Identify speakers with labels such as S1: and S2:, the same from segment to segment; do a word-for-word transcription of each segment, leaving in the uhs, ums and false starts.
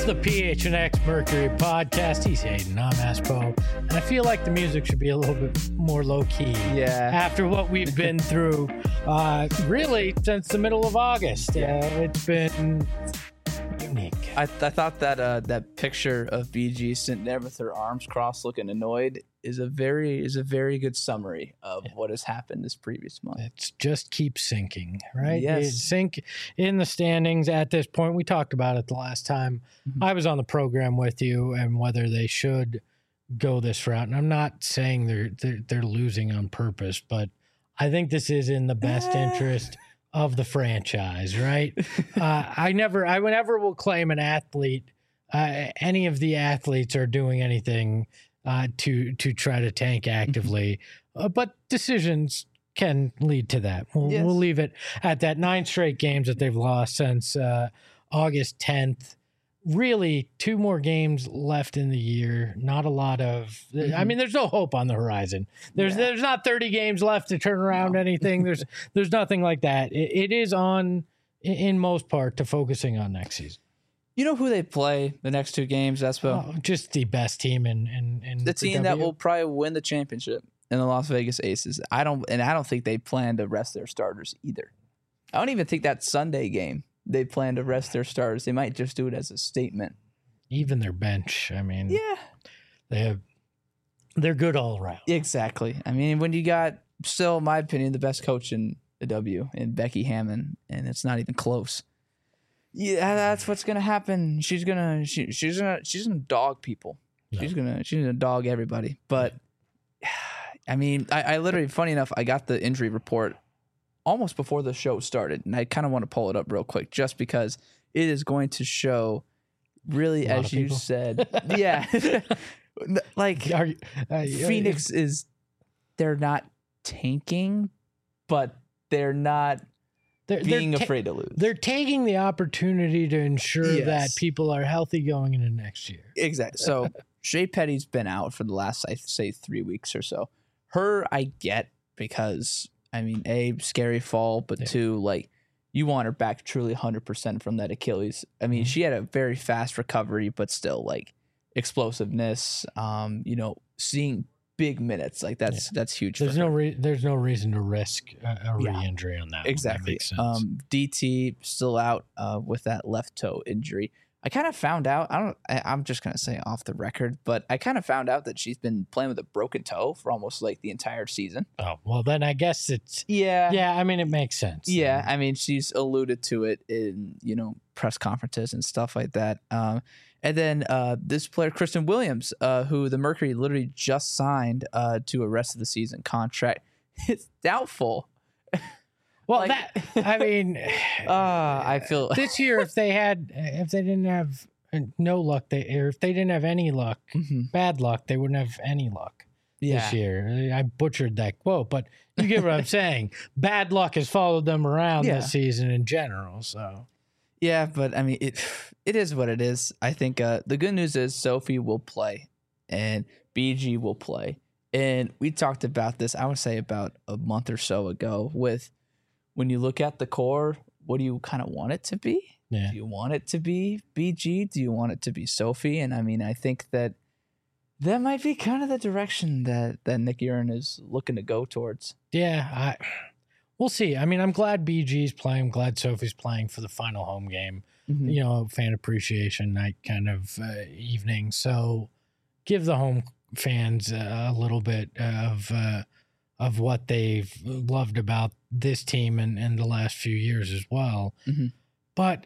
S1: It's the P H N X Mercury podcast. He's Hayden. I'm Aspo. And I feel like the music should be a little bit more low-key.
S2: Yeah.
S1: After what we've been through, uh, really, since the middle of August.
S2: Yeah.
S1: Uh, it's been unique.
S2: I, I thought that uh, that picture of B G sitting there with her arms crossed looking annoyed is a very is a very good summary of yeah. what has happened this previous month.
S1: It just keeps sinking, right?
S2: Yes.
S1: It sink in the standings at this point. We talked about it the last time mm-hmm. I was on the program with you and whether they should go this route. And I'm not saying they're they're, they're losing on purpose, but I think this is in the best interest of the franchise, right? uh, I never, I never will claim an athlete, uh, any of the athletes are doing anything uh, to to try to tank actively, uh, but decisions can lead to that. We'll, yes. we'll leave it at that. Nine straight games that they've lost since uh, August tenth. Really, two more games left in the year. Not a lot of. Mm-hmm. I mean, there's no hope on the horizon. There's yeah. there's not thirty games left to turn around no. anything. There's there's nothing like that. It, it is on, in most part, to focusing on next season.
S2: You know who they play the next two games? That's what
S1: oh, just the best team in in, in
S2: the team
S1: the
S2: that will probably win the championship in the Las Vegas Aces. I don't and I don't think they plan to rest their starters either. I don't even think that Sunday game they plan to rest their starters. They might just do it as a statement.
S1: Even their bench, I mean,
S2: yeah,
S1: they have, they're good all around.
S2: Exactly. I mean, when you got still, in my opinion, the best coach in the W in Becky Hammon, and it's not even close. Yeah, that's what's gonna happen. She's gonna she, she's gonna she's gonna dog people. No. She's gonna she's gonna dog everybody. But I mean, I, I literally, funny enough, I got the injury report almost before the show started, and I kind of want to pull it up real quick just because it is going to show really, as you said, yeah, like Are you, uh, Phoenix yeah. is they're not tanking, but they're not they're, being they're ta- afraid to lose.
S1: They're taking the opportunity to ensure yes. that people are healthy going into next year.
S2: Exactly. So Shea Petty's been out for the last, I'd say, three weeks or so. Her, I get because. I mean, A, scary fall, but yeah. two, like, you want her back truly one hundred percent from that Achilles. I mean, mm-hmm. she had a very fast recovery, but still, like, explosiveness, um, you know, seeing big minutes, like, that's yeah. that's huge
S1: there's
S2: for
S1: no
S2: her.
S1: re- There's no reason to risk a, a re-injury
S2: yeah.
S1: on that.
S2: Exactly.
S1: That makes sense.
S2: Um, D T still out uh, with that left toe injury. I kind of found out, I don't, I, I'm just going to say off the record, but I kind of found out that she's been playing with a broken toe for almost like the entire season.
S1: Oh, well, then I guess it's,
S2: yeah.
S1: Yeah, I mean, it makes sense.
S2: Yeah. I mean, she's alluded to it in, you know, press conferences and stuff like that. Um, and then uh, this player, Kristen Williams, uh, who the Mercury literally just signed uh, to a rest of the season contract, it's doubtful.
S1: Well, like, that, I mean,
S2: uh, I feel
S1: this year, if they had, if they didn't have no luck, they, or if they didn't have any luck, mm-hmm. bad luck, they wouldn't have any luck yeah. this year. I butchered that quote, but you get what I'm saying. Bad luck has followed them around yeah. this season in general. So,
S2: yeah, but I mean, it it is what it is. I think uh, the good news is Sophie will play and B G will play. And we talked about this, I would say, about a month or so ago with, when you look at the core, what do you kind of want it to be?
S1: Yeah.
S2: Do you want it to be B G? Do you want it to be Sophie? And I mean, I think that that might be kind of the direction that, that Nick Urin is looking to go towards.
S1: Yeah, I, we'll see. I mean, I'm glad B G's playing. I'm glad Sophie's playing for the final home game. Mm-hmm. You know, fan appreciation night kind of uh, evening. So give the home fans uh, a little bit of uh, of what they've loved about this team and, and the last few years as well. Mm-hmm. But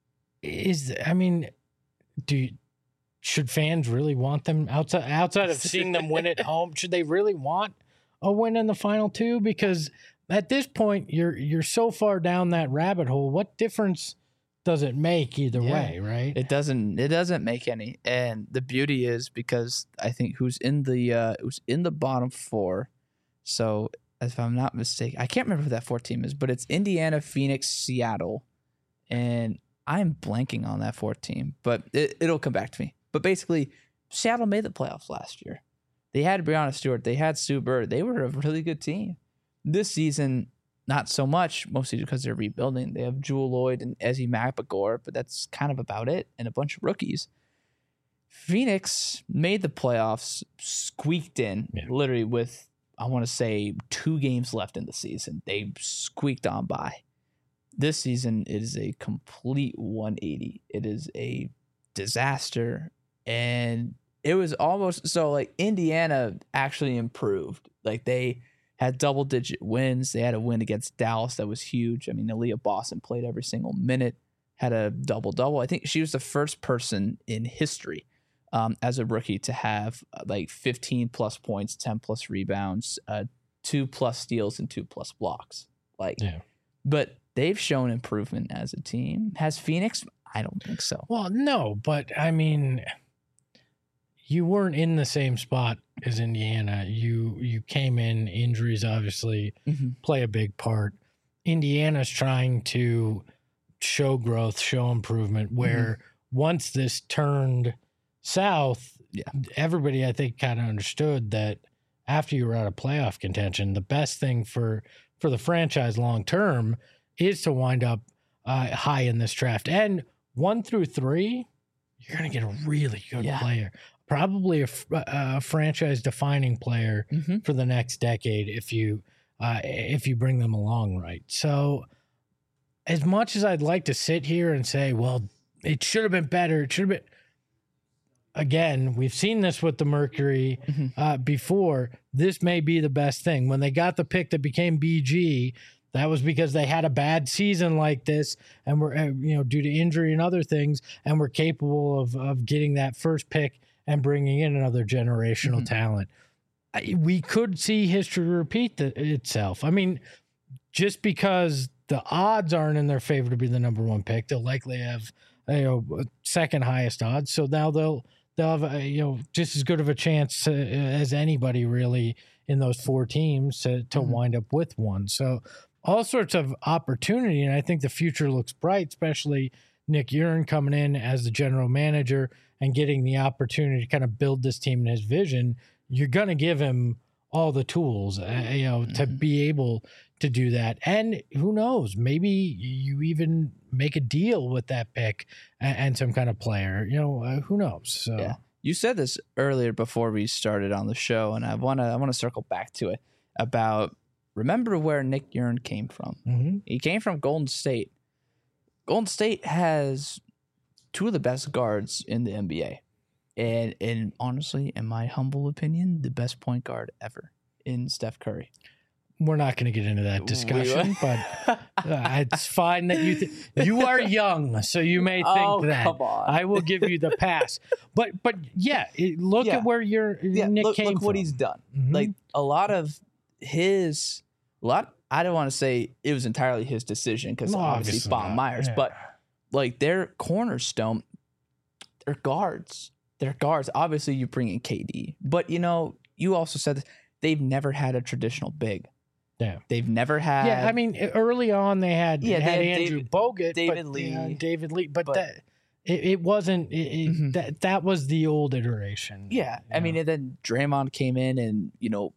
S1: is, I mean, do you, should fans really want them outside, outside of seeing them win at home? Should they really want a win in the final two? Because at this point, you're, you're so far down that rabbit hole. What difference does it make either yeah, way? Right.
S2: It doesn't, it doesn't make any. And the beauty is because I think who's in the, uh, who's in the bottom four. So, if I'm not mistaken, I can't remember who that fourth team is, but it's Indiana, Phoenix, Seattle, and I'm blanking on that fourth team, but it, it'll come back to me. But basically, Seattle made the playoffs last year. They had Breanna Stewart. They had Sue Bird. They were a really good team. This season, not so much, mostly because they're rebuilding. They have Jewel Lloyd and Ezzy Mapagor, but that's kind of about it, and a bunch of rookies. Phoenix made the playoffs, squeaked in, yeah. literally with, I want to say, two games left in the season. They squeaked on by. This season is a complete one eighty. It is a disaster, and it was almost so like Indiana actually improved. Like they had double digit wins. They had a win against Dallas that was huge. I mean, Aaliyah Boston played every single minute, had a double double. I think she was the first person in history um, as a rookie to have uh, like fifteen plus points, ten plus rebounds, uh, two plus steals, and two plus blocks. Like, yeah. But they've shown improvement as a team. Has Phoenix? I don't think so.
S1: Well, no, but I mean, you weren't in the same spot as Indiana. You you came in, injuries obviously mm-hmm. play a big part. Indiana's trying to show growth, show improvement, where mm-hmm. once this turned south, yeah. everybody I think kind of understood that after you were out of playoff contention, the best thing for, for the franchise long term is to wind up uh, high in this draft. And one through three, you're going to get a really good yeah. player. Probably a, a franchise-defining player mm-hmm. for the next decade if you uh, if you bring them along right. So as much as I'd like to sit here and say, well, it should have been better, it should have been – again, we've seen this with the Mercury mm-hmm. uh, before. This may be the best thing. When they got the pick that became B G, that was because they had a bad season like this and were, you know, due to injury and other things, and were capable of of getting that first pick and bringing in another generational mm-hmm. talent. I, we could see history repeat the, itself. I mean, just because the odds aren't in their favor to be the number one pick, they'll likely have, you know, second highest odds. So now they'll they'll have a, you know, just as good of a chance to, as anybody really in those four teams to to mm-hmm. wind up with one. So all sorts of opportunity, and I think the future looks bright, especially Nick Uren coming in as the general manager and getting the opportunity to kind of build this team in his vision. You're going to give him all the tools, uh, you know, mm-hmm. to be able to do that. And who knows, maybe you even make a deal with that pick and, and some kind of player, you know, uh, who knows? So.
S2: Yeah. You said this earlier before we started on the show, and I want to I want to circle back to it about, remember where Nick Uren came from. Mm-hmm. He came from Golden State. Golden State has two of the best guards in the N B A. And, and honestly, in my humble opinion, the best point guard ever in Steph Curry.
S1: We're not going to get into that discussion, but uh, it's fine that you th- you are young, so you may think
S2: oh,
S1: that.
S2: Come on.
S1: I will give you the pass. But but yeah, it, look yeah. at where your
S2: yeah,
S1: Nick
S2: look,
S1: came
S2: look
S1: from.
S2: what he's done. Mm-hmm. Like a lot of his, a lot. I don't want to say it was entirely his decision because
S1: no,
S2: obviously,
S1: obviously
S2: Bob
S1: not.
S2: Myers,
S1: yeah.
S2: but like their cornerstone, they're guards. They're guards. Obviously, you bring in K D, but you know, you also said this, they've never had a traditional big.
S1: Yeah,
S2: they've never had.
S1: Yeah, I mean, early on they had
S2: yeah,
S1: they had
S2: they had
S1: Andrew
S2: David,
S1: Bogut,
S2: David
S1: but,
S2: Lee,
S1: yeah, David Lee, but,
S2: but
S1: that it, it wasn't. It, it, mm-hmm. That that was the old iteration.
S2: Yeah, I know? mean, and then Draymond came in and you know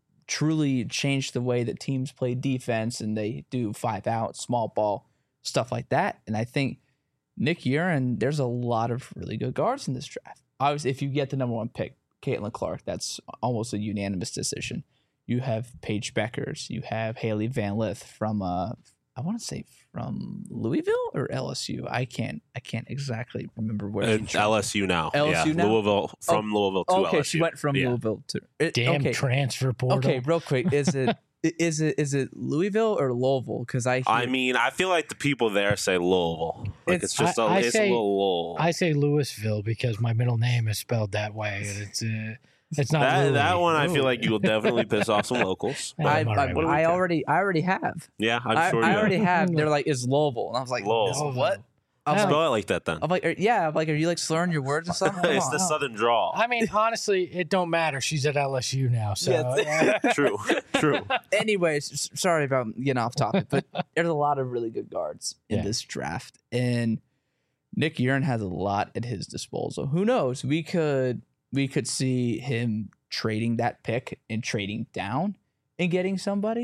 S2: truly changed the way that teams play defense, and they do five out, small ball, stuff like that. And I think Nick Uren, there's a lot of really good guards in this draft. Obviously, if you get the number one pick, Caitlin Clark, that's almost a unanimous decision. You have Paige Beckers. You have Haley Van Lith from, uh, I want to say from Louisville or L S U. I can't, I can't exactly remember where.
S3: It's L S U now.
S2: L S U
S3: yeah,
S2: now?
S3: Louisville from
S2: oh,
S3: Louisville to
S2: okay,
S3: L S U.
S2: Okay, she went from yeah. Louisville to. It,
S1: Damn
S2: okay.
S1: transfer portal.
S2: Okay, real quick, is it? Is it is it Louisville or Louisville? Because I hear,
S3: I mean I feel like the people there say Louisville. Like it's, it's just I, a,
S1: I
S3: it's
S1: say,
S3: a little.
S1: I say Louisville because my middle name is spelled that way, and it's uh, it's not
S3: that,
S1: Louis.
S3: that one. I
S1: Louis.
S3: feel like you will definitely piss off some locals.
S2: I, I, right I, I already I already have.
S3: Yeah, I'm
S2: I,
S3: sure.
S2: I
S3: you
S2: already
S3: have.
S2: have. They're like, it's Louisville, and I was like,
S3: Louisville.
S2: what?
S3: I'll
S2: like,
S3: spell it like that then.
S2: I'm like, are, yeah, I'm like, are you like slurring your words or something?
S3: It's the Southern drawl.
S1: I mean, honestly, it don't matter. She's at L S U now, so
S2: yeah,
S3: true, true.
S2: Anyways, sorry about getting off topic, but there's a lot of really good guards in yeah. this draft, and Nick Uren has a lot at his disposal. Who knows? We could we could see him trading that pick and trading down and getting somebody.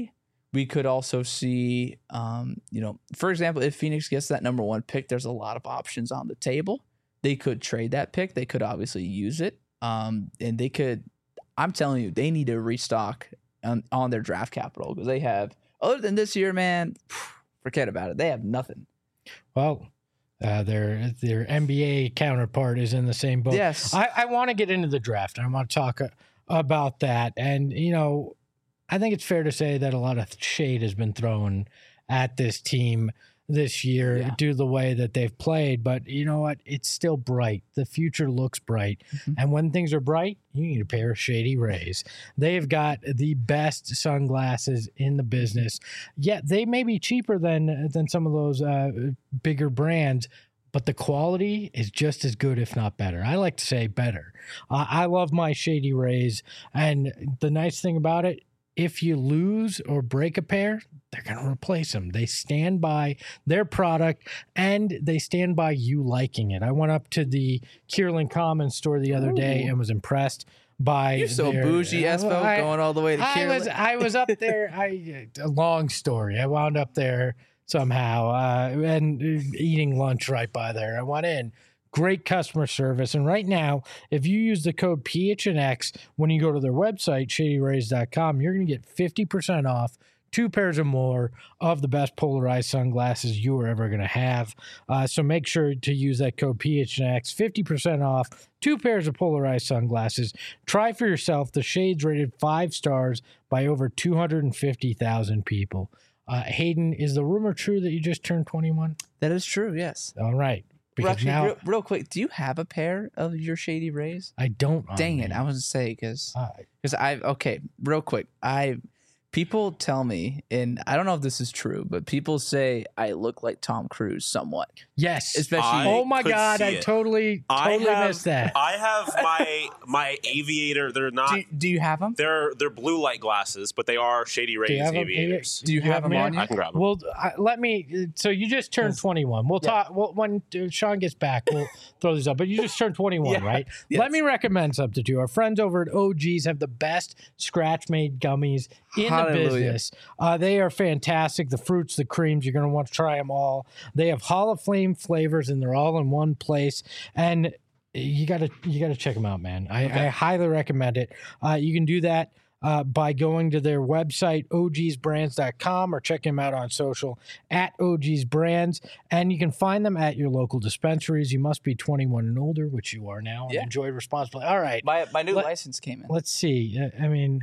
S2: we could also see, um, you know, for example, if Phoenix gets that number one pick, there's a lot of options on the table. They could trade that pick. They could obviously use it. Um, and they could, I'm telling you, they need to restock on, on their draft capital because they have, other than this year, man, forget about it. They have nothing.
S1: Well, uh, their their N B A counterpart is in the same boat.
S2: Yes.
S1: I, I want to get into the draft. I want to talk uh, about that. And, you know, I think it's fair to say that a lot of shade has been thrown at this team this year
S2: Yeah.
S1: due to the way that they've played. But you know what? It's still bright. The future looks bright.
S2: Mhm.
S1: And when things are bright, you need a pair of Shady Rays. They've got the best sunglasses in the business. Yet they may be cheaper than than some of those uh, bigger brands, but the quality is just as good, if not better. I like to say better. Uh, I love my Shady Rays. And the nice thing about it, if you lose or break a pair, they're going to replace them. They stand by their product and they stand by you liking it. I went up to the Kierland Commons store the other day and was impressed by
S2: You're so
S1: their,
S2: bougie,
S1: uh,
S2: Espo,
S1: I-
S2: going all the way to
S1: I was
S2: Kierland.
S1: I was up there. I a long story. I wound up there somehow uh, and eating lunch right by there. I went in. Great customer service. And right now, if you use the code P H N X when you go to their website, shady rays dot com, you're going to get fifty percent off two pairs or more of the best polarized sunglasses you are ever going to have. Uh, so make sure to use that code P H N X, fifty percent off two pairs of polarized sunglasses. Try for yourself. The shades rated five stars by over two hundred fifty thousand people. Uh, Hayden, is the rumor true that you just turned twenty-one?
S2: That is true, yes.
S1: All right.
S2: Well,
S1: Because
S2: actually,
S1: now
S2: real, real quick, do you have a pair of your Shady Rays?
S1: I don't. on
S2: Dang it,
S1: me.
S2: I was to say because
S1: Uh,
S2: because I okay, real quick, I people tell me, and I don't know if this is true, but people say I look like Tom Cruise somewhat,
S1: yes.
S2: especially.
S3: I
S1: oh my
S3: could
S1: God!
S3: see
S1: I
S3: it.
S1: totally,
S3: I
S1: totally
S3: have,
S1: missed that.
S3: I have my my aviator. They're not.
S2: do, do you have them?
S3: They're they're blue light glasses, but they are Shady
S1: Do you
S3: Rays
S1: have 'em?
S3: aviators.
S2: Do you have them
S1: them
S2: on
S1: yet?
S2: you?
S3: I can grab them.
S1: Well, I, let me. So you just turned
S2: Yes.
S1: twenty-one. We'll
S2: Yeah.
S1: talk. Well, when uh, Sean gets back, we'll throw these up. But you just turned twenty-one,
S2: Yeah.
S1: right?
S2: Yes.
S1: Let me recommend something to you. Our friends over at O G's have the best scratch-made gummies in
S2: Hallelujah.
S1: the business. Uh, they are fantastic. The fruits, the creams. You're going to want to try them all. They have Hall of Fame flavors, and they're all in one place. And you got to you got to check them out, man. I, I highly recommend it. Uh, you can do that. Uh, by going to their website, O Gs brands dot com, or check them out on social at O Gs Brands. And you can find them at your local dispensaries. You must be twenty-one and older, which you are now, and
S2: Yeah.
S1: enjoy responsibly. All right.
S2: My my new
S1: Let-
S2: license came in.
S1: Let's see. Uh, I mean,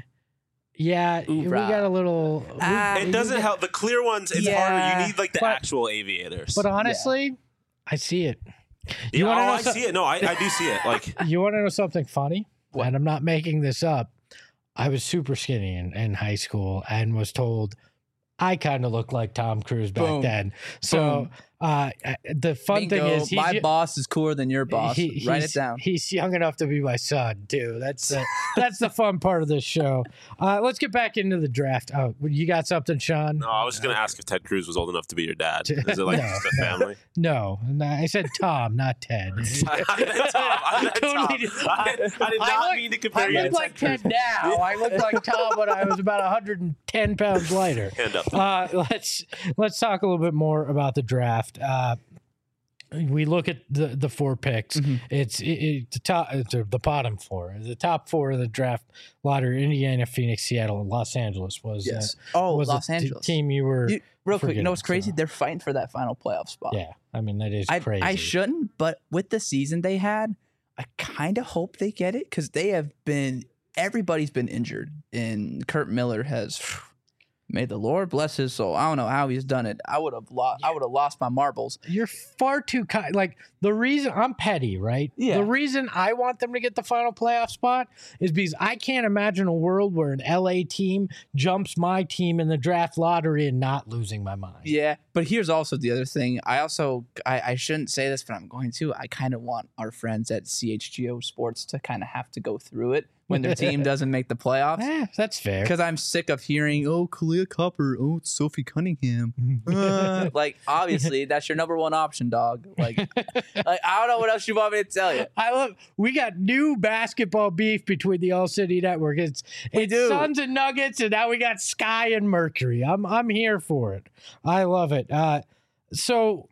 S1: yeah, we
S2: Hoorah.
S1: got a little. we-
S2: Ah,
S3: It
S1: we
S3: doesn't
S1: got-
S3: help. The clear ones, it's
S2: Yeah.
S3: harder. You need like the
S1: But-
S3: actual aviators.
S1: But honestly, I see it.
S3: yeah,
S1: wanna
S3: oh,
S1: know
S3: I
S1: so-
S3: see it. No, I, I do see it. Like
S1: You want to know something funny?
S2: What?
S1: And I'm not making this up. I was super skinny in, in high school and was told I kind of looked like Tom Cruise back
S2: Boom.
S1: then. So
S2: Boom.
S1: uh, the fun thing
S2: Bingo,
S1: is, he's,
S2: my
S1: y-
S2: boss is cooler than your boss.
S1: he-
S2: Write
S1: he's-
S2: it down.
S1: He's young enough to be my son too. That's the that's the fun part of this show. Uh, let's get back into the draft. Oh, you got something, Sean?
S3: no, I was just gonna ask if Ted Cruz was old enough to be your dad. Is it like
S1: No.
S3: just a family?
S1: No, no, I said Tom, not Ted.
S3: I meant Tom. I meant Tom.
S1: Totally did-
S3: I, I did
S1: I
S3: not
S1: look-
S3: mean to
S1: I
S3: compare you to
S1: look like
S3: Ted
S1: Ted now. I look like Tom when I was about one hundred ten pounds lighter.
S3: Cruz. Hand up.
S1: Uh, let's let's talk a little bit more about the draft. Uh, we look at the the four picks.
S2: Mhm.
S1: It's it, it, the top, it's the bottom four. The top four of the draft lottery: Indiana, Phoenix, Seattle, and Los Angeles was
S2: Yes.
S1: uh,
S2: oh,
S1: was
S2: Los
S1: the t-
S2: Angeles.
S1: team you were.
S2: You- real quick, you know what's
S1: forgetting,
S2: crazy?
S1: so-
S2: They're fighting for that final playoff spot.
S1: Yeah, I mean that is
S2: I,
S1: crazy.
S2: I shouldn't, but with the season they had, I kind of hope they get it because they have been, everybody's been injured. And Kurt Miller has, may the Lord bless his soul. I don't know how he's done it. I would have lost, I would have lost my marbles.
S1: You're far too kind. Like the reason I'm petty, right?
S2: Yeah.
S1: The reason I want them to get the final playoff spot is because I can't imagine a world where an L A team jumps my team in the draft lottery and not losing my mind.
S2: Yeah. But here's also the other thing. I also, I, I shouldn't say this, but I'm going to. I kind of want our friends at C H G O Sports to kind of have to go through it when their team doesn't make the playoffs.
S1: Eh, that's fair.
S2: Because I'm sick of hearing, oh, Khalil Leah Copper. Oh, it's Sophie Cunningham. Uh, like, obviously, that's your number one option, dog. Like, like, I don't know what else you want me to tell you.
S1: I love. We got new basketball beef between the All City Network. It's
S2: We
S1: it's
S2: do.
S1: Suns and Nuggets, and now we got Sky and Mercury. I'm I'm here for it. I love it. Uh, so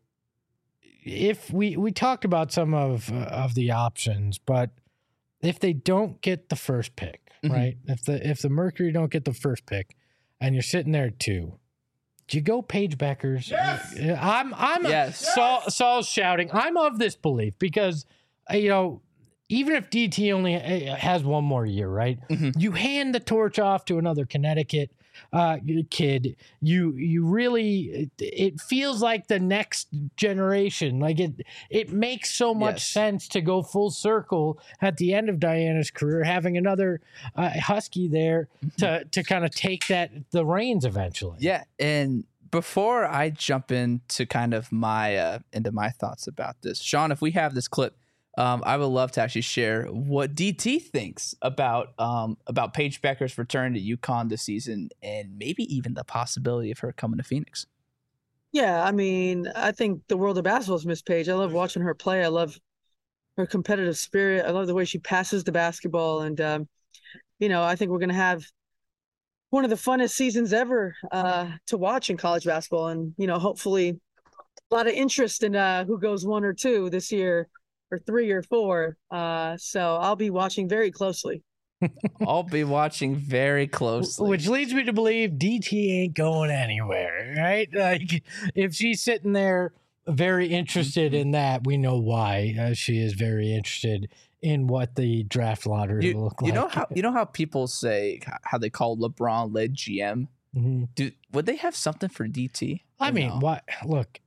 S1: if we we talked about some of uh, of the options, but if they don't get the first pick,
S2: Mhm.
S1: right? If the if the Mercury don't get the first pick, and you're sitting there at two, do you go Paige Beckers? Yes. I'm I'm
S2: Yes.
S1: Saul, Saul's shouting. I'm of this belief because uh, you know, even if D T only uh, has one more year, right?
S2: Mhm.
S1: You hand the torch off to another Connecticut uh, kid. You you really it, it feels like the next generation. Like it it makes so much
S2: Yes.
S1: sense to go full circle at the end of Diana's career, having another uh, Husky there to to kind of take that the reins eventually.
S2: Yeah, and before I jump into kind of my uh, into my thoughts about this, Sean, if we have this clip, um, I would love to actually share what D T thinks about um, about Paige Becker's return to UConn this season, and maybe even the possibility of her coming to Phoenix.
S4: Yeah, I mean, I think the world of basketball's Miss Page. I love watching her play. I love her competitive spirit. I love the way she passes the basketball, and um, you know, I think we're gonna have one of the funnest seasons ever uh, to watch in college basketball, and you know, hopefully, a lot of interest in uh, who goes one or two this year, or three or four. Uh, so I'll be watching very closely.
S2: I'll be watching very closely.
S1: Which leads me to believe D T ain't going anywhere, right? Like, if she's sitting there very interested in that, we know why. Uh, she is very interested in what the draft lottery
S2: you,
S1: will look
S2: you
S1: like.
S2: know how you know how people say how they call LeBron led G M.
S1: Mhm.
S2: Do would they have something for D T?
S1: I
S2: Or
S1: mean,
S2: no?
S1: what? Look,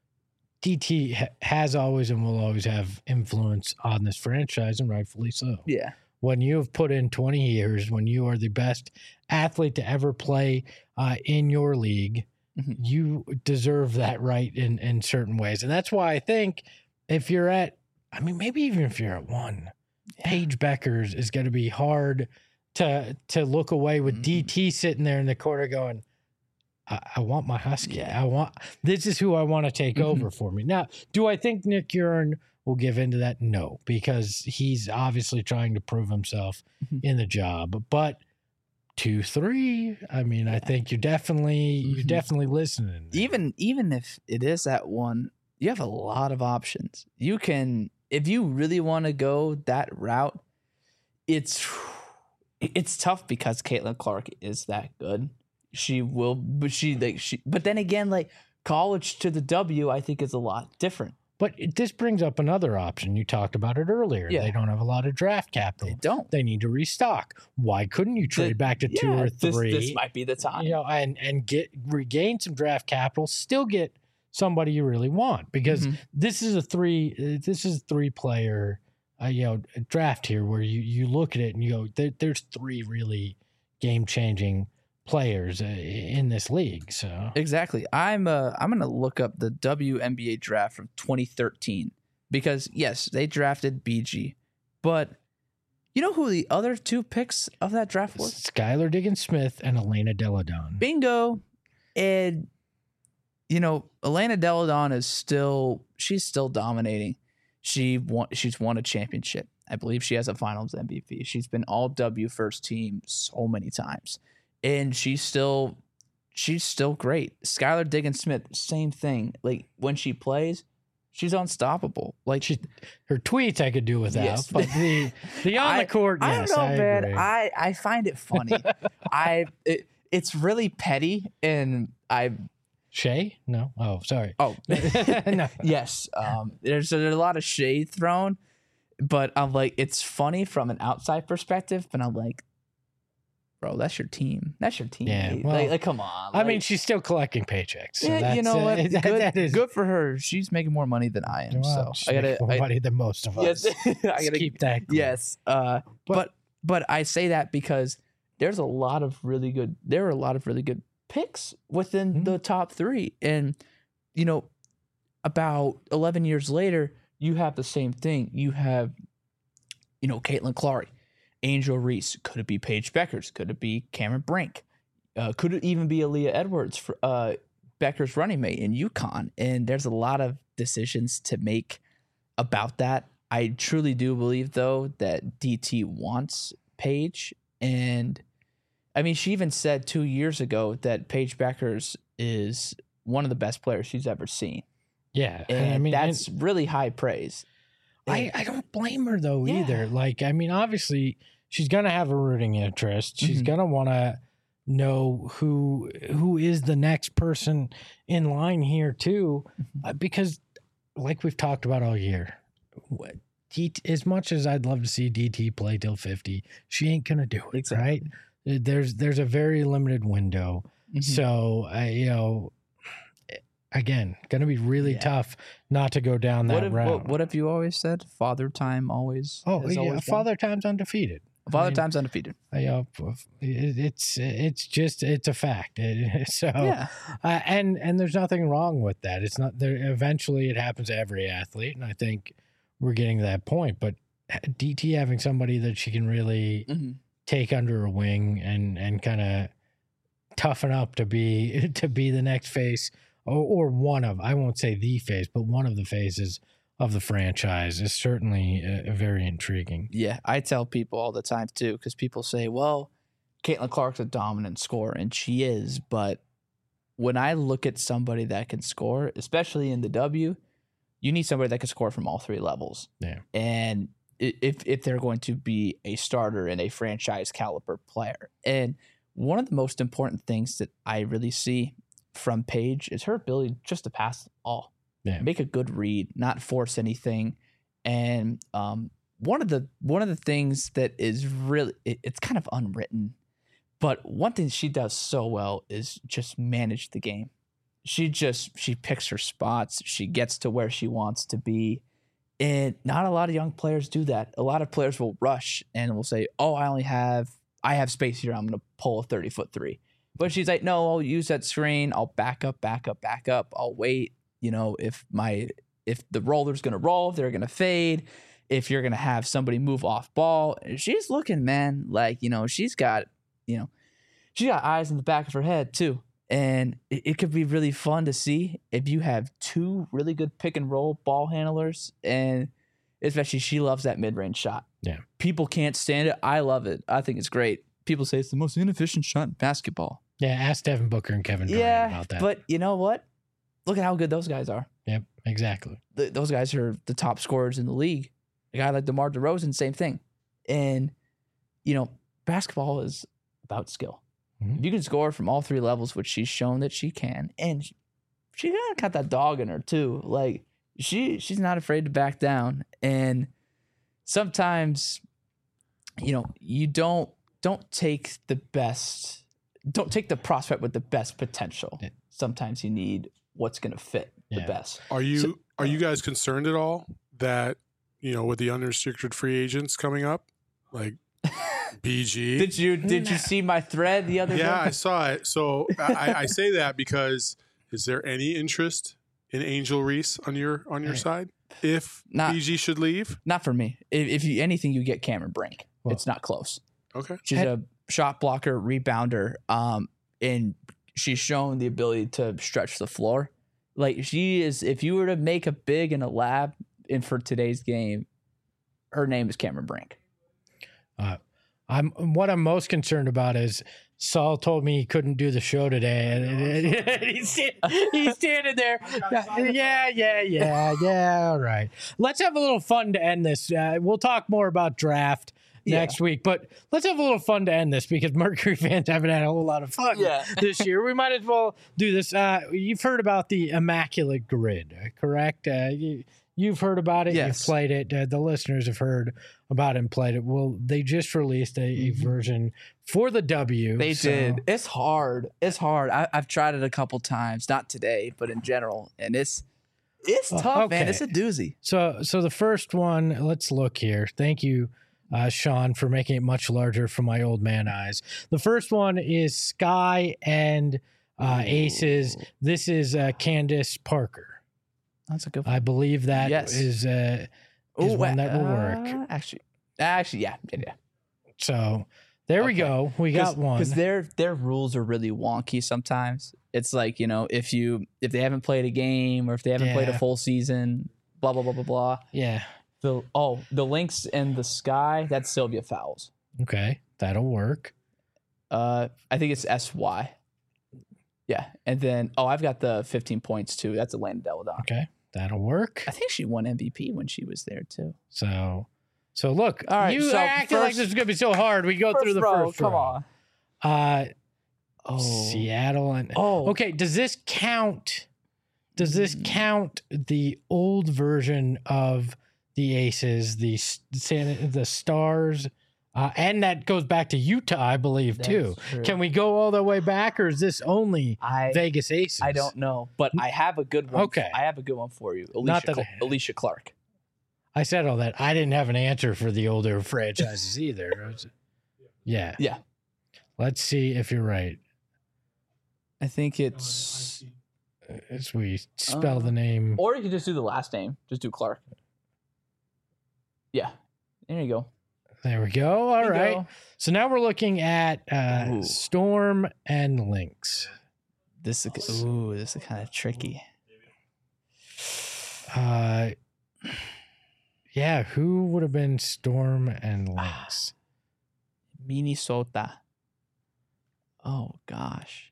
S1: D T ha- has always and will always have influence on this franchise, and rightfully so.
S2: Yeah.
S1: When you have put in twenty years, when you are the best athlete to ever play uh, in your league,
S2: Mhm.
S1: you deserve that right in, in certain ways. And that's why I think if you're at, I mean, maybe even if you're at one,
S2: Yeah.
S1: Paige Beckers is going to be hard to to look away with
S2: Mhm.
S1: D T sitting there in the corner going, I, I want my Husky.
S2: Yeah.
S1: I want, this is who I want to take
S2: Mhm.
S1: over for me. Now, do I think Nick Urine will give into that? No, because he's obviously trying to prove himself
S2: Mhm.
S1: in the job. But two, three, I mean, I think you're definitely you're
S2: Mhm.
S1: definitely listening.
S2: even even if it is at one, you have a lot of options. You can, if you really want to go that route, it's it's tough because Caitlin Clark is that good. She will, but she like she. But then again, like college to the W, I think is a lot different.
S1: But it, this brings up another option. You talked about it earlier.
S2: Yeah.
S1: They don't have a lot of draft capital.
S2: They don't.
S1: They need to restock. Why couldn't you trade
S2: The-
S1: back to two
S2: yeah,
S1: or
S2: this-
S1: three?
S2: This, might be the time.
S1: You know, and and get regain some draft capital, still get somebody you really want, because
S2: Mhm.
S1: this is a three uh, this is a three player uh, you know draft here where you you look at it and you go there, there's three really game changing players uh, in this league. So
S2: Exactly. I'm uh I'm gonna look up the W N B A draft from twenty thirteen because yes, they drafted B G, but you know who the other two picks of that draft was?
S1: Skylar Diggins Smith and Elena Deladon.
S2: Bingo. And you know, Elena Deladon is still she's still dominating. She won she's won a championship. I believe she has a finals M V P. She's been all W first team so many times. And she's still she's still great. Skylar Diggins Smith, same thing. Like when she plays, she's unstoppable. Like
S1: She, her tweets I could do without,
S2: Yes.
S1: but the the on
S2: I-
S1: the court,
S2: I
S1: yes,
S2: don't know,
S1: I
S2: man.
S1: agree.
S2: I, I find it funny. I it, it's really petty, and I
S1: Shay? No. Oh, sorry.
S2: oh
S1: No.
S2: yes. Um, there's, there's a lot of shade thrown, but I'm like, it's funny from an outside perspective, but I'm like, bro, that's your team. That's your team.
S1: Yeah,
S2: like,
S1: well,
S2: like, come on.
S1: I mean,
S2: like-
S1: she's still collecting paychecks. So
S2: yeah,
S1: that's,
S2: you know
S1: uh,
S2: what?
S1: that-
S2: good,
S1: that is
S2: good for her. She's making more money than I am.
S1: Well,
S2: so
S1: she's
S2: I gotta,
S1: making more
S2: I,
S1: money than most of
S2: yes,
S1: us.
S2: I
S1: Let's
S2: gotta
S1: keep that. Clear.
S2: Yes, uh,
S1: But-
S2: but but I say that because there's a lot of really good. There are a lot of really good picks within
S1: Mhm.
S2: the top three, and you know, about eleven years later, you have the same thing. You have, you know, Caitlin Clark, Angel Reese. Could it be Paige Beckers? Could it be Cameron Brink? uh, could it even be Aaliyah Edwards, for, uh, Becker's running mate in UConn? And there's a lot of decisions to make about that. I truly do believe, though, that D T wants Paige. And I mean, she even said two years ago that Paige Beckers is one of the best players she's ever seen.
S1: Yeah.
S2: And
S1: I mean,
S2: that's
S1: and
S2: really high praise.
S1: I, I don't blame her, though,
S2: Yeah.
S1: either. Like, I mean, obviously, she's going to have a rooting interest. She's
S2: Mhm.
S1: going to want to know who who is the next person in line here, too,
S2: Mhm.
S1: uh, because, like we've talked about all year, what, D T, as much as I'd love to see D T play till fifty, she ain't going to do it,
S2: Exactly.
S1: right? There's there's a very limited window.
S2: Mhm.
S1: So, uh, you know, again, going to be really
S2: Yeah.
S1: tough not to go down that
S2: What have,
S1: route.
S2: what, what have you always said? Father time always.
S1: oh,
S2: has
S1: yeah,
S2: always won?
S1: Father Time's undefeated.
S2: Father
S1: I mean,
S2: time's undefeated.
S1: You know, it, it's it's just it's a fact. It, so,
S2: Yeah.
S1: uh, and and there's nothing wrong with that. It's not there. Eventually, it happens to every athlete, and I think we're getting to that point. But D T having somebody that she can really
S2: Mhm.
S1: take under her wing and and kind of toughen up to be to be the next face or, or one of, I won't say the face, but one of the faces of the franchise is certainly uh, very intriguing.
S2: Yeah, I tell people all the time too, because people say, "Well, Caitlin Clark's a dominant scorer," and she is. But when I look at somebody that can score, especially in the W, you need somebody that can score from all three levels.
S1: Yeah.
S2: And i- if if they're going to be a starter and a franchise caliber player, and one of the most important things that I really see from Paige is her ability just to pass the ball.
S1: Yeah.
S2: Make a good read, not force anything. And um, one of the one of the things that is really it, it's kind of unwritten, but one thing she does so well is just manage the game. She just she picks her spots. She gets to where she wants to be. And not a lot of young players do that. A lot of players will rush and will say, "Oh, I only have I have space here. I'm going to pull a thirty foot three." But she's like, "No, I'll use that screen. I'll back up, back up, back up. I'll wait. You know, if my if the roller's going to roll, if they're going to fade, if you're going to have somebody move off ball." She's looking, man, like, you know, she's got, you know, she got eyes in the back of her head too. And it, it could be really fun to see if you have two really good pick and roll ball handlers, and especially she loves that mid-range shot.
S1: Yeah.
S2: People can't stand it. I love it. I think it's great. People say it's the most inefficient shot in basketball.
S1: Yeah, ask Devin Booker and Kevin Durant
S2: Yeah,
S1: about that.
S2: but you know what? Look at how good those guys are.
S1: Yep, exactly.
S2: Th those guys are the top scorers in the league. A guy like DeMar DeRozan, same thing. And, you know, basketball is about skill.
S1: Mhm.
S2: If you can score from all three levels, which she's shown that she can, and she, she kind of got that dog in her too. Like she she's not afraid to back down. And sometimes, you know, you don't don't take the best, don't take the prospect with the best potential.
S1: Yeah.
S2: Sometimes you need what's going to fit
S1: Yeah.
S2: the best.
S5: Are you
S2: So-
S5: are you guys concerned at all that, you know, with the unrestricted free agents coming up, like B G?
S2: Did you did you see my thread the other
S5: Yeah, I
S2: day?
S5: saw it. So I, I say that because is there any interest in Angel Reese on your on your
S1: Hey.
S5: side if
S2: Not-
S5: B G should leave?
S2: Not for me. If, if you anything, you get Cameron Brink.
S1: Well-
S2: it's not close.
S5: Okay.
S2: She's
S1: Hey.
S2: a shot blocker, rebounder, um, and she's shown the ability to stretch the floor. Like she is. If you were to make a big in a lab in for today's game, her name is Cameron Brink.
S1: Uh, I'm what I'm most concerned about is Saul told me he couldn't do the show today, and, and- and he's sta- he's standing there. Yeah, yeah, yeah, yeah. All right, let's have a little fun to end this. Uh, we'll talk more about draft
S2: Yeah.
S1: next week, but let's have a little fun to end this because Mercury fans haven't had a whole lot of fun
S2: Yeah.
S1: this year. We might as well do this. Uh, you've heard about the Immaculate Grid, uh, correct? Uh, you, you've heard about it.
S2: Yes.
S1: You've played it. Uh, the listeners have heard about it and played it. Well, they just released a, a
S2: Mhm.
S1: version for the W.
S2: They
S1: so-
S2: did. It's hard. It's hard. I, I've tried it a couple times, not today, but in general, and it's it's
S1: Oh,
S2: tough, man.
S1: okay.
S2: It's a doozy.
S1: So, so the first one, let's look here. Thank you, uh, Sean, for making it much larger for my old man eyes. The first one is Sky and uh, Aces. This is uh, Candace Parker.
S2: That's a good.
S1: I believe that
S2: Yes.
S1: is uh, is
S2: Ooh,
S1: one that will
S2: uh,
S1: work.
S2: Actually, actually, yeah, yeah, yeah.
S1: So There we
S2: Okay.
S1: go. We got one.
S2: Because their their rules are really wonky sometimes. It's like, you know, if you if they haven't played a game or if they haven't played a
S1: Yeah.
S2: full season, blah blah blah blah blah.
S1: Yeah.
S2: The oh, the links in the sky, that's Sylvia Fowles.
S1: Okay. That'll work.
S2: Uh I think it's S Y. Yeah. And then oh, I've got the fifteen points too. That's Elena Deladon.
S1: Okay. That'll work.
S2: I think she won M V P when she was there too.
S1: So, so look,
S2: All right,
S1: you
S2: so
S1: acted like
S2: first-
S1: this is going to be so hard. We go through the
S2: row,
S1: first
S2: come
S1: row.
S2: on.
S1: Uh,
S2: Oh.
S1: Seattle and
S2: Oh.
S1: okay. Does this count? Does this
S2: Mm.
S1: count the old version of the Aces, the S- San, the Stars, uh, and that goes back to Utah, I believe, too.
S2: That's true.
S1: Can we go all the way back, or is this only
S2: I
S1: Vegas Aces?
S2: I don't know, but I have a good one.
S1: Okay.
S2: I have a good one for you. Alicia,
S1: Not that
S2: Cl-
S1: I-
S2: Alicia Clark.
S1: I said all that. I didn't have an answer for the older franchises either. I was- yeah.
S2: Yeah.
S1: Let's see if you're right.
S2: I think it's
S1: As we spell
S2: Uh,
S1: the name.
S2: or you could just do the last name. Just do Clark. Yeah. There you go.
S1: There we go. All
S2: There you
S1: right.
S2: go.
S1: So now we're looking at uh,
S2: Ooh.
S1: Storm and Lynx.
S2: This is ooh, this is kind of tricky.
S1: Uh, yeah, who would have been Storm and Lynx?
S2: Minnesota. Oh gosh.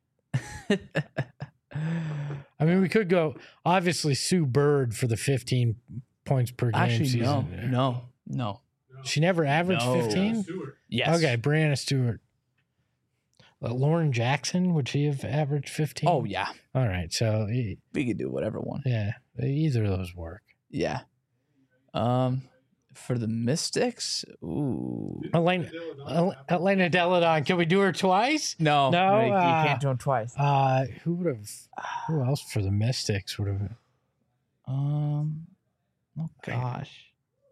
S1: I mean, we could go obviously Sue Bird for the fifteen points per game
S2: Actually, no,
S1: season.
S2: no, no.
S1: She never averaged
S2: No.
S1: fifteen?
S2: Yes.
S1: Okay, Brianna Stewart. Uh, Lauren Jackson, would she have averaged fifteen?
S2: Oh yeah,
S1: All right. So, e-
S2: we could do whatever one.
S1: yeah, either of those work.
S2: Yeah. Um, for the Mystics, ooh.
S1: Elena, El- Elena Deladon, can we do her twice?
S2: No,
S1: No,
S2: you, you
S1: uh,
S2: can't do them twice.
S1: Uh, who would have, who else for the Mystics would have,
S2: Um, oh gosh.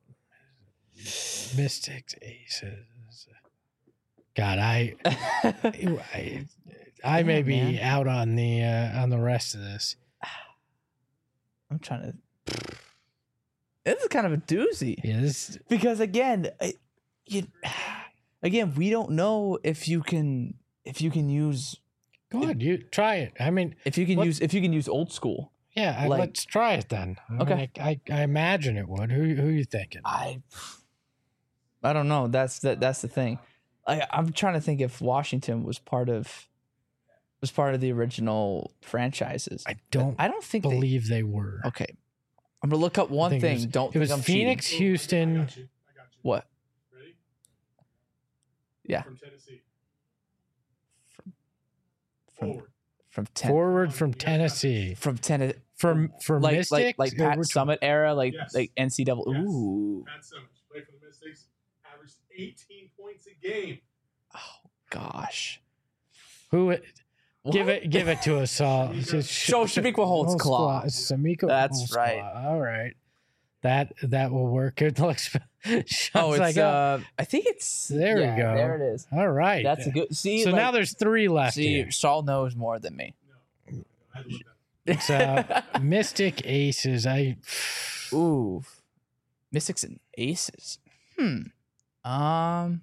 S1: Mystics, Aces. God, I, I, I may
S2: Yeah,
S1: be
S2: man.
S1: out on the, uh, on the rest of this.
S2: I'm trying to. This is kind of a doozy
S1: Yeah, this,
S2: because again, I, you, again, we don't know if you can if you can use
S1: go ahead, you try it. I mean,
S2: if you can
S1: What-
S2: use if you can use old school.
S1: yeah, I,
S2: Like-
S1: let's try it then. I
S2: Okay.
S1: mean, I, I, I imagine it would. Who, who are you thinking?
S2: I I don't know. That's the that's the thing. I I'm trying to think if Washington was part of was part of the original franchises.
S1: I don't
S2: I don't think they,
S1: believe they were.
S2: okay. I'm gonna look up
S1: I
S2: one
S1: think
S2: thing.
S1: It was,
S2: don't
S1: it
S2: think
S1: was
S2: I'm
S1: Phoenix,
S2: cheating.
S1: Houston.
S2: What?
S5: Ready?
S2: Yeah.
S5: From Tennessee.
S2: From
S5: Forward.
S2: from ten,
S1: Forward from Tennessee.
S2: from ten
S1: For for
S2: like
S1: Mystics,
S2: like like
S1: or
S2: Pat
S1: which-
S2: Summit era, like
S5: Yes.
S2: like N C double.
S5: Yes.
S2: Ooh,
S5: Pat Summers, played for the Mystics, averaged eighteen points a game.
S2: oh gosh.
S1: who give
S2: What?
S1: it give it to us all. Just
S2: Show Shamika Holtz
S1: Holtz
S2: claw.
S1: Shamika
S2: That's
S1: Holtz
S2: right.
S1: claw. All right. That that will work. It looks
S2: Oh,
S1: Sean's
S2: it's
S1: like, oh,
S2: uh, I think it's
S1: There we
S2: yeah,
S1: go.
S2: There it is.
S1: all right.
S2: That's a good. See,
S1: so
S2: like,
S1: now there's three left
S2: see,
S1: here.
S2: Saul knows more than me.
S5: I love that.
S1: So Mystic Aces. I
S2: Ooh, Mystics and Aces. Hmm. Um.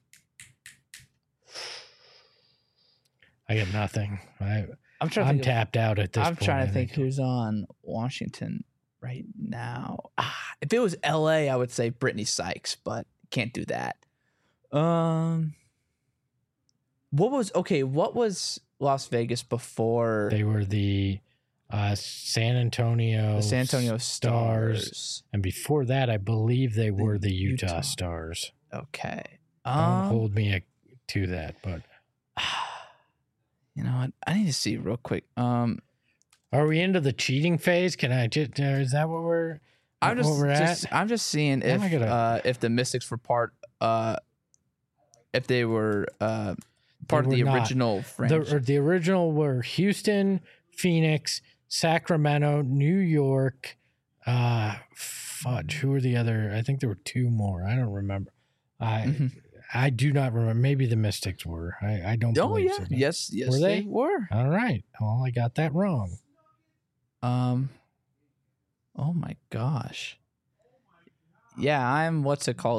S1: I got nothing. I
S2: I'm trying. To
S1: I'm
S2: think of-
S1: tapped out at this
S2: I'm
S1: point.
S2: trying
S1: I
S2: to think who's on Washington right now. Ah, if it was L A, I would say Brittany Sykes, but can't do that. Um, what was okay? What was Las Vegas before
S1: They were the uh, San Antonio
S2: the San Antonio
S1: Stars.
S2: Stars?
S1: And before that, I believe they were the Utah,
S2: Utah.
S1: Stars.
S2: Okay.
S1: Don't
S2: Um,
S1: hold me a, to that, but
S2: you know what? I need to see real quick. Um,
S1: are we into the cheating phase? Can I just? Uh, is that what we're?
S2: I'm just,
S1: what we're
S2: just
S1: at?
S2: I'm just seeing if
S1: I gotta-
S2: uh, if the Mystics were part uh, if they were uh, part
S1: were
S2: of the
S1: not.
S2: original franchise.
S1: The, or the original were Houston, Phoenix, Sacramento, New York. Uh, fudge. Who were the other? I think there were two more. I don't remember. I
S2: Mhm.
S1: I do not remember. Maybe the Mystics were. I, I don't
S2: Oh
S1: believe
S2: yeah,
S1: so.
S2: yes, yes,
S1: Were
S2: they?
S1: they?
S2: were.
S1: All right. Well, I got that wrong.
S2: Um. Oh my gosh. Yeah, I'm. What's it called?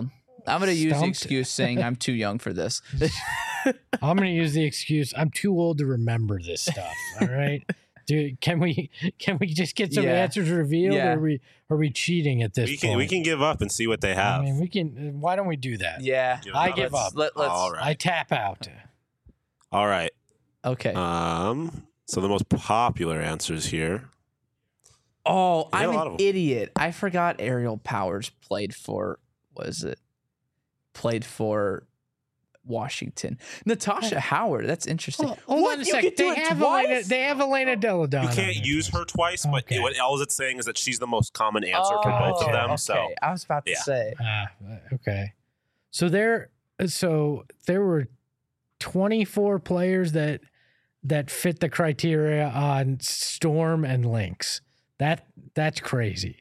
S2: I'm going to use the
S1: Stumped.
S2: excuse saying I'm too young for this.
S1: I'm going to use the excuse. I'm too old to remember this stuff. All right. Dude, can we can we just get some
S2: Yeah.
S1: answers revealed,
S2: Yeah.
S1: or are we are we cheating at this
S3: We
S1: point?
S3: can we can give up and see what they
S1: I
S3: have.
S1: mean, we can. Why don't we do that?
S2: Yeah.
S3: Give
S1: I
S3: up.
S1: give
S2: Let's-
S1: up.
S2: Let, let's,
S3: All right.
S1: I tap out.
S3: All right.
S2: Okay.
S3: Um. So the most popular answers here.
S2: oh,
S3: we got
S2: I'm
S3: a lot
S2: an
S3: of 'em.
S2: idiot. I forgot Ariel Powers played for, was it? Played for Washington. Natasha Howard. That's interesting.
S1: Hold, hold
S2: What?
S1: on a
S2: You
S1: second.
S2: could do
S1: They
S2: it
S1: have
S2: twice?
S1: Elena. They have Elena Deladon.
S3: You
S1: on
S3: can't
S1: there
S3: use
S1: twice.
S3: her twice, but
S1: Okay.
S3: what all it's saying is that she's the most common answer for both
S1: gotcha.
S3: of them.
S2: Okay.
S3: So
S2: I was about to
S3: Yeah.
S2: say.
S1: Ah, okay. So there, so there were twenty-four players that that fit the criteria on Storm and Lynx. That that's crazy.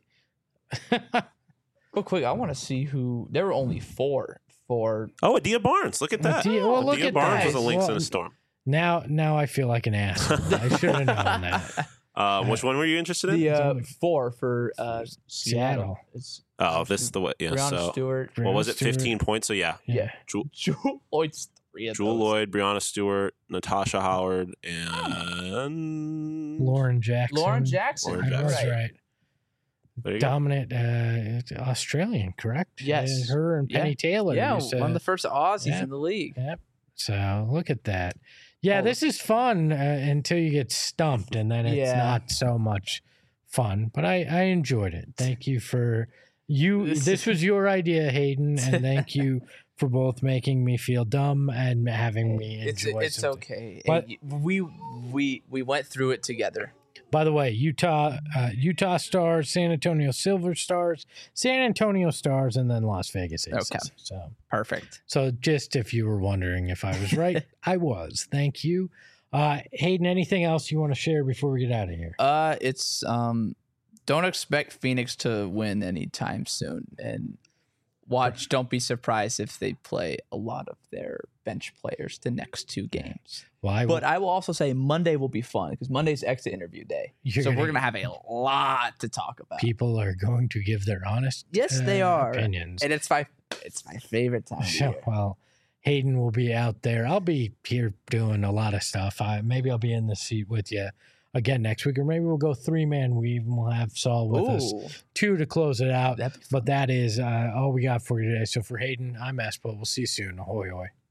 S2: Real quick, I want to see who. There were only four for.
S3: oh, Adia Barnes. Look at that.
S1: Adia- well, look
S3: Adia
S1: at
S3: Barnes
S1: that.
S3: was a Lynx
S1: Well,
S3: and a Storm.
S1: Now, now I feel like an ass. I should have known that.
S3: Uh, which one were you interested in?
S2: The uh,
S1: only-
S2: four for uh, Seattle.
S1: Seattle.
S2: It's
S3: oh, this is the way. Yeah.
S2: Brianna
S3: So
S2: Stewart.
S3: what was it?
S1: Stewart.
S3: Fifteen points. So yeah,
S2: Yeah.
S3: Jewel,
S2: Jewel Lloyd's three of
S3: Jewel
S2: those.
S3: Lloyd, Brianna Stewart, Natasha Howard, and
S1: Lauren Jackson.
S2: Lauren Jackson.
S3: Lauren
S1: I
S2: You're
S1: was
S3: Jackson.
S2: right.
S1: right.
S3: There you go.
S1: Dominant uh, it's Australian, correct?
S2: Yes.
S1: Uh, her and
S2: Yeah.
S1: Penny Taylor.
S2: Yeah,
S1: used to-
S2: one of the first Aussies
S1: yeah.
S2: in the league.
S1: Yep. So look at that. Yeah,
S2: Oh.
S1: this is fun uh, until you get stumped, and then it's
S2: Yeah.
S1: not so much fun. But I, I enjoyed it. Thank you for you.
S2: This-
S1: This was your idea, Hayden, and thank you for both making me feel dumb and having me
S2: It's
S1: enjoy.
S2: it's
S1: something.
S2: okay.
S1: But-
S2: Hey, we we we went through it together.
S1: By the way, Utah, uh, Utah Stars, San Antonio Silver Stars, San Antonio Stars, and then Las Vegas Aces.
S2: Okay.
S1: So.
S2: Perfect.
S1: So just if you were wondering if I was right, I was. Thank you. Uh, Hayden, anything else you want to share before we get out of here?
S2: Uh, it's um, don't expect Phoenix to win anytime soon, and watch. Don't be surprised if they play a lot of their bench players the next two games.
S1: Well, I,
S2: But I will also say Monday will be fun because Monday's exit interview day,
S1: You're
S2: so
S1: gonna-
S2: we're gonna have a lot to talk about.
S1: people are going to give their honest
S2: Yes, they
S1: uh,
S2: are.
S1: opinions.
S2: And it's my it's my favorite time of
S1: So,
S2: year.
S1: well, Hayden will be out there. I'll be here doing a lot of stuff. I, maybe I'll be in the seat with you again next week, or maybe we'll go three man weave and we'll have Saul with us
S2: Ooh,
S1: two to close it out.
S2: that'd be fun.
S1: But that is uh, all we got for you today. So for Hayden, I'm Espo. We'll see you soon. Ahoy, ahoy.